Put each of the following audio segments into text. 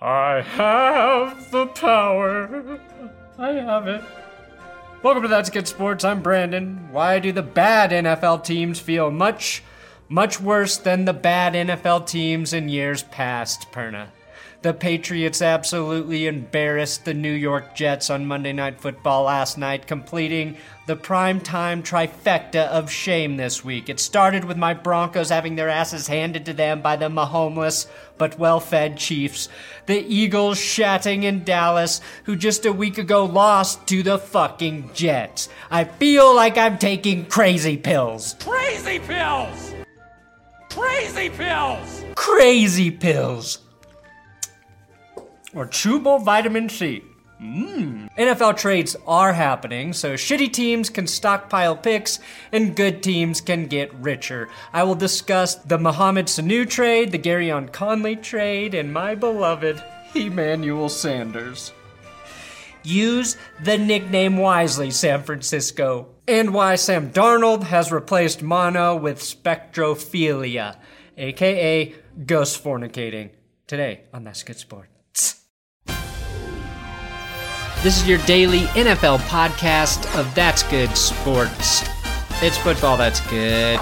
I have the power. I have it. Welcome to That's Good Sports. I'm Brandon. Why do the bad NFL teams feel much worse than the bad NFL teams in years past, Perna? The Patriots absolutely embarrassed the New York Jets on Monday Night Football last night, completing the primetime trifecta of shame this week. It started with my Broncos having their asses handed to them by the Mahomeless but well-fed Chiefs. The Eagles shatting in Dallas, who just a week ago lost to the fucking Jets. I feel like I'm taking crazy pills. Crazy pills! Crazy pills! Crazy pills. Or chewable vitamin C. NFL trades are happening, so shitty teams can stockpile picks and good teams can get richer. I will discuss the Mohamed Sanu trade, the Garyon Conley trade, and my beloved Emmanuel Sanders. Use the nickname wisely, San Francisco. And why Sam Darnold has replaced mono with spectrophilia, aka ghost fornicating. Today on That's Good Sport. This is your daily NFL podcast of That's Good Sports. It's football that's good.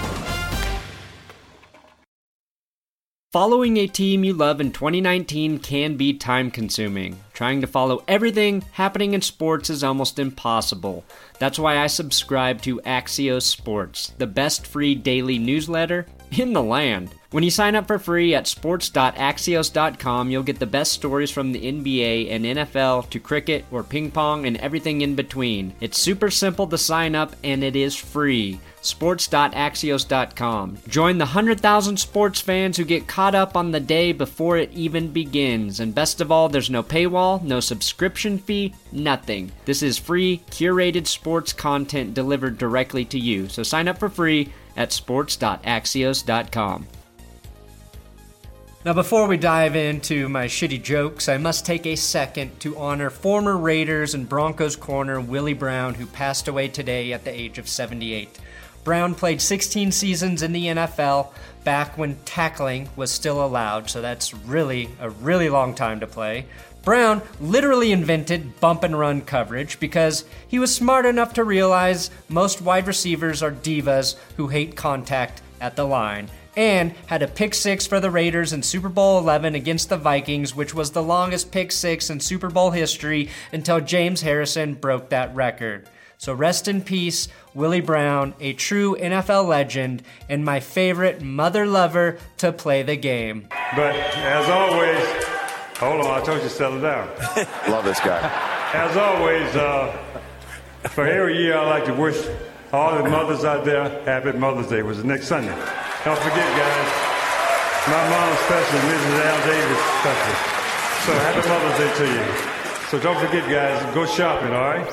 Following a team you love in 2019 can be time-consuming. Trying to follow everything happening in sports is almost impossible. That's why I subscribe to Axios Sports, the best free daily newsletter in the land. When you sign up for free at sports.axios.com, you'll get the best stories from the NBA and NFL to cricket or ping pong and everything in between. It's super simple to sign up and it is free. Sports.axios.com. Join the 100,000 sports fans who get caught up on the day before it even begins. And best of all, there's no paywall, no subscription fee, nothing. This is free, curated sports content delivered directly to you. So sign up for free at sports.axios.com. Now, before we dive into my shitty jokes, I must take a second to honor former Raiders and Broncos corner Willie Brown, who passed away today at the age of 78. Brown played 16 seasons in the NFL back when tackling was still allowed, so that's really a really long time to play. Brown literally invented bump and run coverage because he was smart enough to realize most wide receivers are divas who hate contact at the line, and had a pick six for the Raiders in Super Bowl 11 against the Vikings, which was the longest pick six in Super Bowl history until James Harrison broke that record. So rest in peace, Willie Brown, a true NFL legend and my favorite mother lover to play the game. But as always, hold on, I told you to settle down. Love this guy. As always, for every year I like to wish all the mothers out there happy Mother's Day. It was next Sunday. Don't forget, guys, my mom special, Mrs. Al Davis special. So happy Mother's Day to you. So don't forget, guys, go shopping, all right?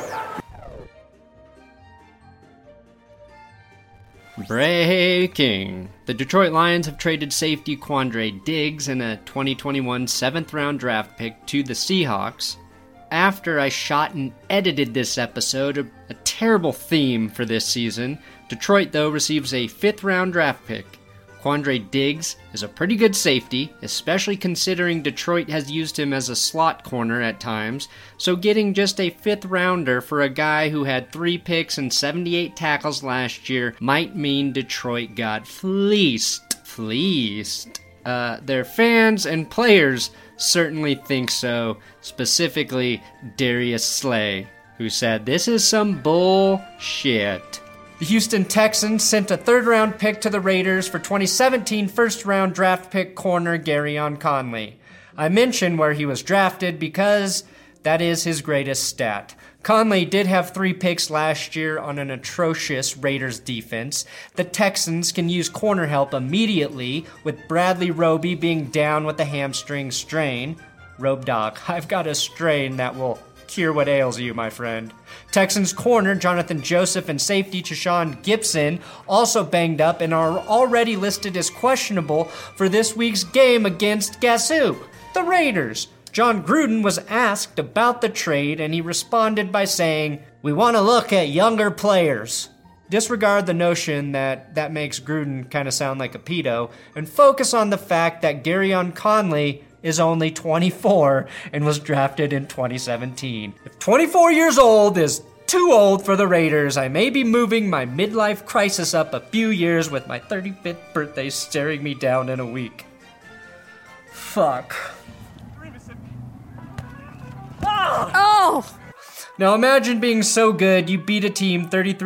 Breaking. The Detroit Lions have traded safety Quandre Diggs and a 2021 7th-round draft pick to the Seahawks. After I shot and edited this episode, a terrible theme for this season, Detroit, though, receives a 5th-round draft pick. Quandre Diggs is a pretty good safety, especially considering Detroit has used him as a slot corner at times, so getting just a 5th-rounder for a guy who had 3 picks and 78 tackles last year might mean Detroit got fleeced. Their fans and players certainly think so, specifically Darius Slay, who said, "This is some bullshit." The Houston Texans sent a 3rd-round pick to the Raiders for 2017 first-round draft pick corner Garyon Conley. I mention where he was drafted because that is his greatest stat. Conley did have 3 picks last year on an atrocious Raiders defense. The Texans can use corner help immediately, with Bradley Roby being down with a hamstring strain. Robe Doc, I've got a strain that will cure what ails you, my friend. Texans corner Jonathan Joseph and safety Tashawn Gibson also banged up and are already listed as questionable for this week's game against, guess who? The Raiders. John Gruden was asked about the trade and he responded by saying, "We want to look at younger players." Disregard the notion that makes Gruden kind of sound like a pedo and focus on the fact that Garyon Conley is only 24 and was drafted in 2017. If 24 years old is too old for the Raiders, I may be moving my midlife crisis up a few years with my 35th birthday staring me down in a week. Fuck. Oh! Now imagine being so good you beat a team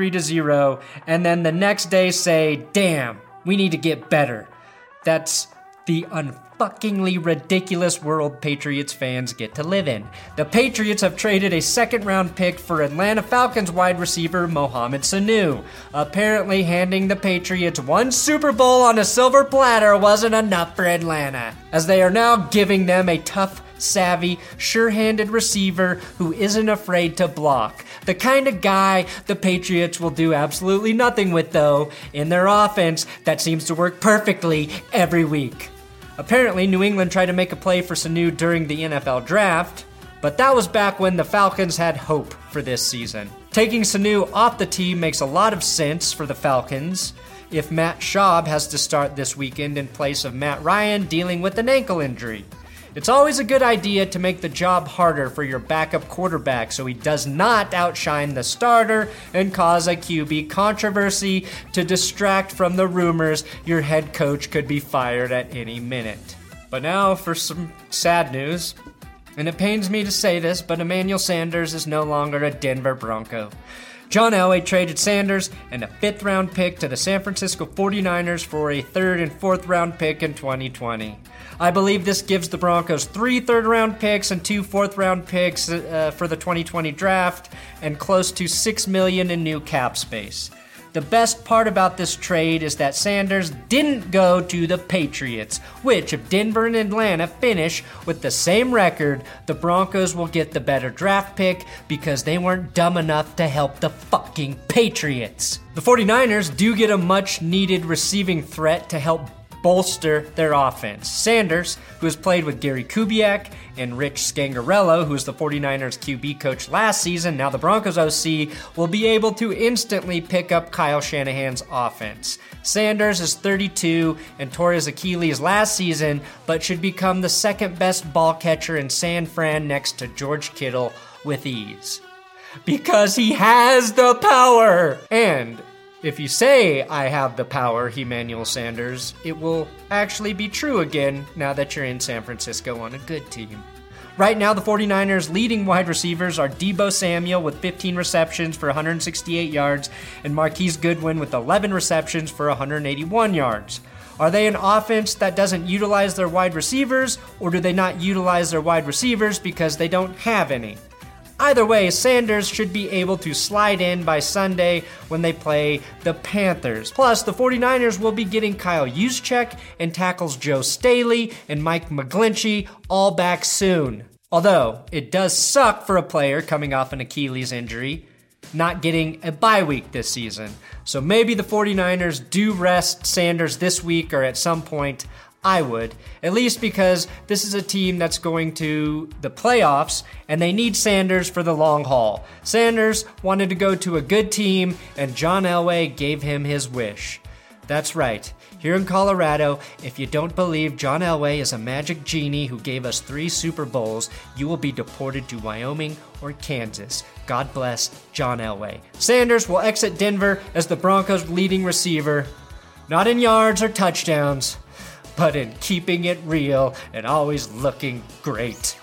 33-0 and then the next day say, damn, we need to get better. That's the unfuckingly ridiculous world Patriots fans get to live in. The Patriots have traded a second-round pick for Atlanta Falcons wide receiver Mohamed Sanu. Apparently handing the Patriots one Super Bowl on a silver platter wasn't enough for Atlanta, as they are now giving them a tough, savvy, sure-handed receiver who isn't afraid to block. The kind of guy the Patriots will do absolutely nothing with, though, in their offense that seems to work perfectly every week. Apparently, New England tried to make a play for Sanu during the NFL draft, but that was back when the Falcons had hope for this season. Taking Sanu off the team makes a lot of sense for the Falcons if Matt Schaub has to start this weekend in place of Matt Ryan dealing with an ankle injury. It's always a good idea to make the job harder for your backup quarterback so he does not outshine the starter and cause a QB controversy to distract from the rumors your head coach could be fired at any minute. But now for some sad news. And it pains me to say this, but Emmanuel Sanders is no longer a Denver Bronco. John Elway traded Sanders and a 5th-round pick to the San Francisco 49ers for a 3rd and 4th-round pick in 2020. I believe this gives the Broncos 3 3rd-round picks and 2 4th-round picks for the 2020 draft and close to $6 million in new cap space. The best part about this trade is that Sanders didn't go to the Patriots, which if Denver and Atlanta finish with the same record, the Broncos will get the better draft pick because they weren't dumb enough to help the fucking Patriots. The 49ers do get a much needed receiving threat to help bolster their offense. Sanders, who has played with Gary Kubiak and Rich Scangarello, who was the 49ers QB coach last season, now the Broncos OC, will be able to instantly pick up Kyle Shanahan's offense. Sanders is 32 and tore his Achilles last season, but should become the second best ball catcher in San Fran next to George Kittle with ease. Because he has the power! And if you say I have the power, Emmanuel Sanders, it will actually be true again now that you're in San Francisco on a good team. Right now, the 49ers' leading wide receivers are Deebo Samuel with 15 receptions for 168 yards and Marquise Goodwin with 11 receptions for 181 yards. Are they an offense that doesn't utilize their wide receivers, or do they not utilize their wide receivers because they don't have any? Either way, Sanders should be able to slide in by Sunday when they play the Panthers. Plus, the 49ers will be getting Kyle Juszczyk and tackles Joe Staley and Mike McGlinchey all back soon. Although, it does suck for a player coming off an Achilles injury not getting a bye week this season. So maybe the 49ers do rest Sanders this week or at some point. I would, at least because this is a team that's going to the playoffs and they need Sanders for the long haul. Sanders wanted to go to a good team and John Elway gave him his wish. That's right. Here in Colorado, if you don't believe John Elway is a magic genie who gave us 3 Super Bowls, you will be deported to Wyoming or Kansas. God bless John Elway. Sanders will exit Denver as the Broncos' leading receiver, not in yards or touchdowns, but in keeping it real and always looking great.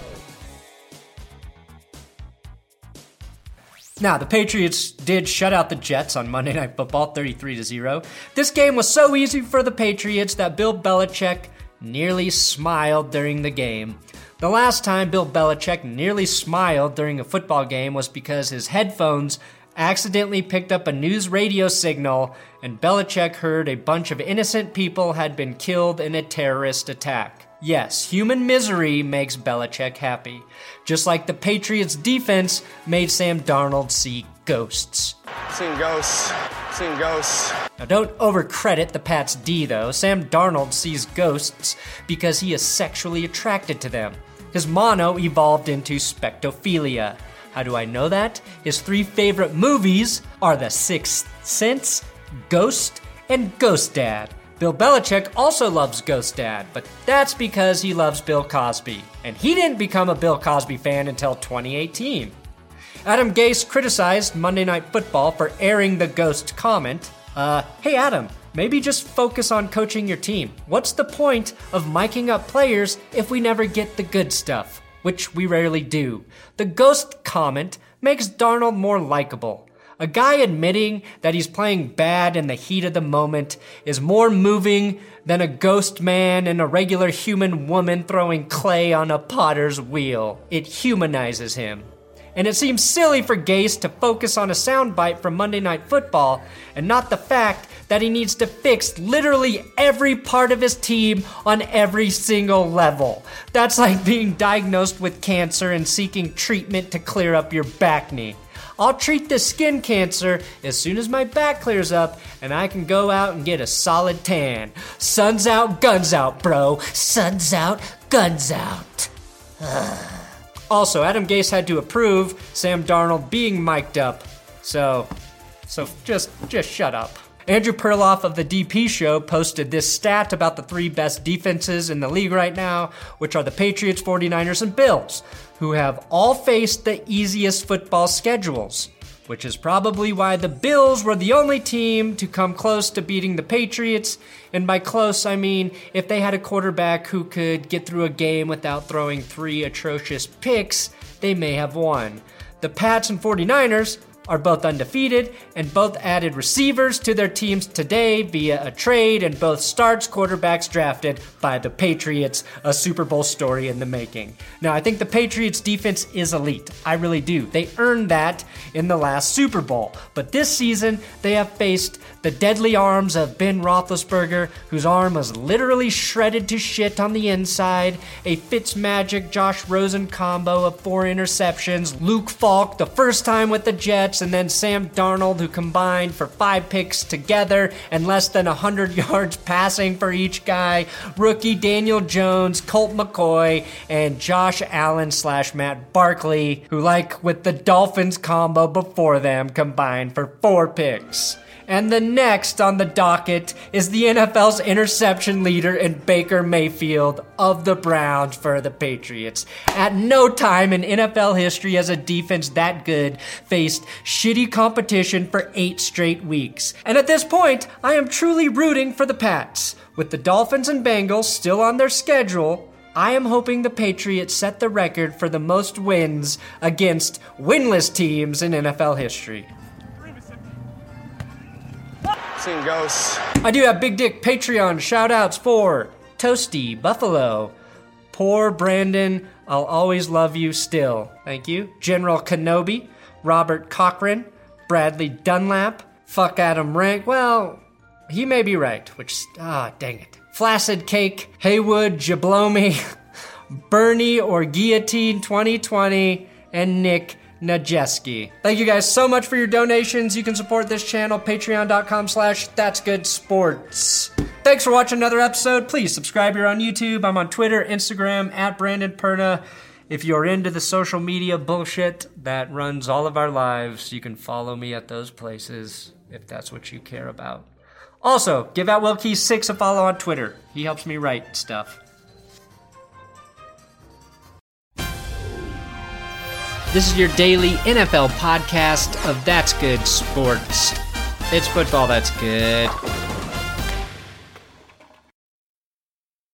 Now, the Patriots did shut out the Jets on Monday Night Football 33-0. This game was so easy for the Patriots that Bill Belichick nearly smiled during the game. The last time Bill Belichick nearly smiled during a football game was because his headphones accidentally picked up a news radio signal and Belichick heard a bunch of innocent people had been killed in a terrorist attack. Yes, human misery makes Belichick happy. Just like the Patriots' defense made Sam Darnold see ghosts. Seen ghosts. Seen ghosts. Now don't overcredit the Pats' D though. Sam Darnold sees ghosts because he is sexually attracted to them. His mono evolved into spectophilia. How do I know that? His 3 favorite movies are The Sixth Sense, Ghost, and Ghost Dad. Bill Belichick also loves Ghost Dad, but that's because he loves Bill Cosby, and he didn't become a Bill Cosby fan until 2018. Adam Gase criticized Monday Night Football for airing the Ghost comment. Hey Adam, maybe just focus on coaching your team. What's the point of miking up players if we never get the good stuff? Which we rarely do. The Ghost comment makes Darnold more likable. A guy admitting that he's playing bad in the heat of the moment is more moving than a ghost man and a regular human woman throwing clay on a potter's wheel. It humanizes him. And it seems silly for Gase to focus on a soundbite from Monday Night Football and not the fact that he needs to fix literally every part of his team on every single level. That's like being diagnosed with cancer and seeking treatment to clear up your back knee. I'll treat the skin cancer as soon as my back clears up and I can go out and get a solid tan. Sun's out, guns out, bro. Sun's out, guns out. Also, Adam Gase had to approve Sam Darnold being mic'd up. So just shut up. Andrew Perloff of the DP Show posted this stat about the 3 best defenses in the league right now, which are the Patriots, 49ers, and Bills, who have all faced the easiest football schedules, which is probably why the Bills were the only team to come close to beating the Patriots. And by close, I mean if they had a quarterback who could get through a game without throwing 3 atrocious picks, they may have won. The Pats and 49ers are both undefeated and both added receivers to their teams today via a trade, and both starts quarterbacks drafted by the Patriots, a Super Bowl story in the making. Now, I think the Patriots defense is elite. I really do. They earned that in the last Super Bowl. But this season, they have faced the deadly arms of Ben Roethlisberger, whose arm was literally shredded to shit on the inside, a Fitzmagic Josh Rosen combo of 4 interceptions, Luke Falk the first time with the Jets, and then Sam Darnold, who combined for 5 picks together and less than 100 yards passing for each guy, rookie Daniel Jones, Colt McCoy, and Josh Allen / Matt Barkley, who, like with the Dolphins combo before them, combined for 4 picks. And the next on the docket is the NFL's interception leader in Baker Mayfield of the Browns for the Patriots. At no time in NFL history has a defense that good faced shitty competition for 8 straight weeks. And at this point, I am truly rooting for the Pats. With the Dolphins and Bengals still on their schedule, I am hoping the Patriots set the record for the most wins against winless teams in NFL history. Seen ghosts. I do have Big Dick Patreon shout-outs for Toasty Buffalo, Poor Brandon, I'll always love you still. Thank you. General Kenobi, Robert Cochran, Bradley Dunlap, Fuck Adam Rank. Well, he may be right, which, dang it. Flaccid Cake, Haywood Jablomi, Bernie or Guillotine 2020, and Nick Najeski. Thank you guys so much for your donations. You can support this channel, patreon.com/that'sgoodsports. Thanks for watching another episode. Please subscribe here on YouTube. I'm on Twitter, Instagram, @BrandonPerna. If you're into the social media bullshit that runs all of our lives, you can follow me at those places if that's what you care about. Also, give At Will Key 6 a follow on Twitter. He helps me write stuff. This is your daily NFL podcast of That's Good Sports. It's football that's good.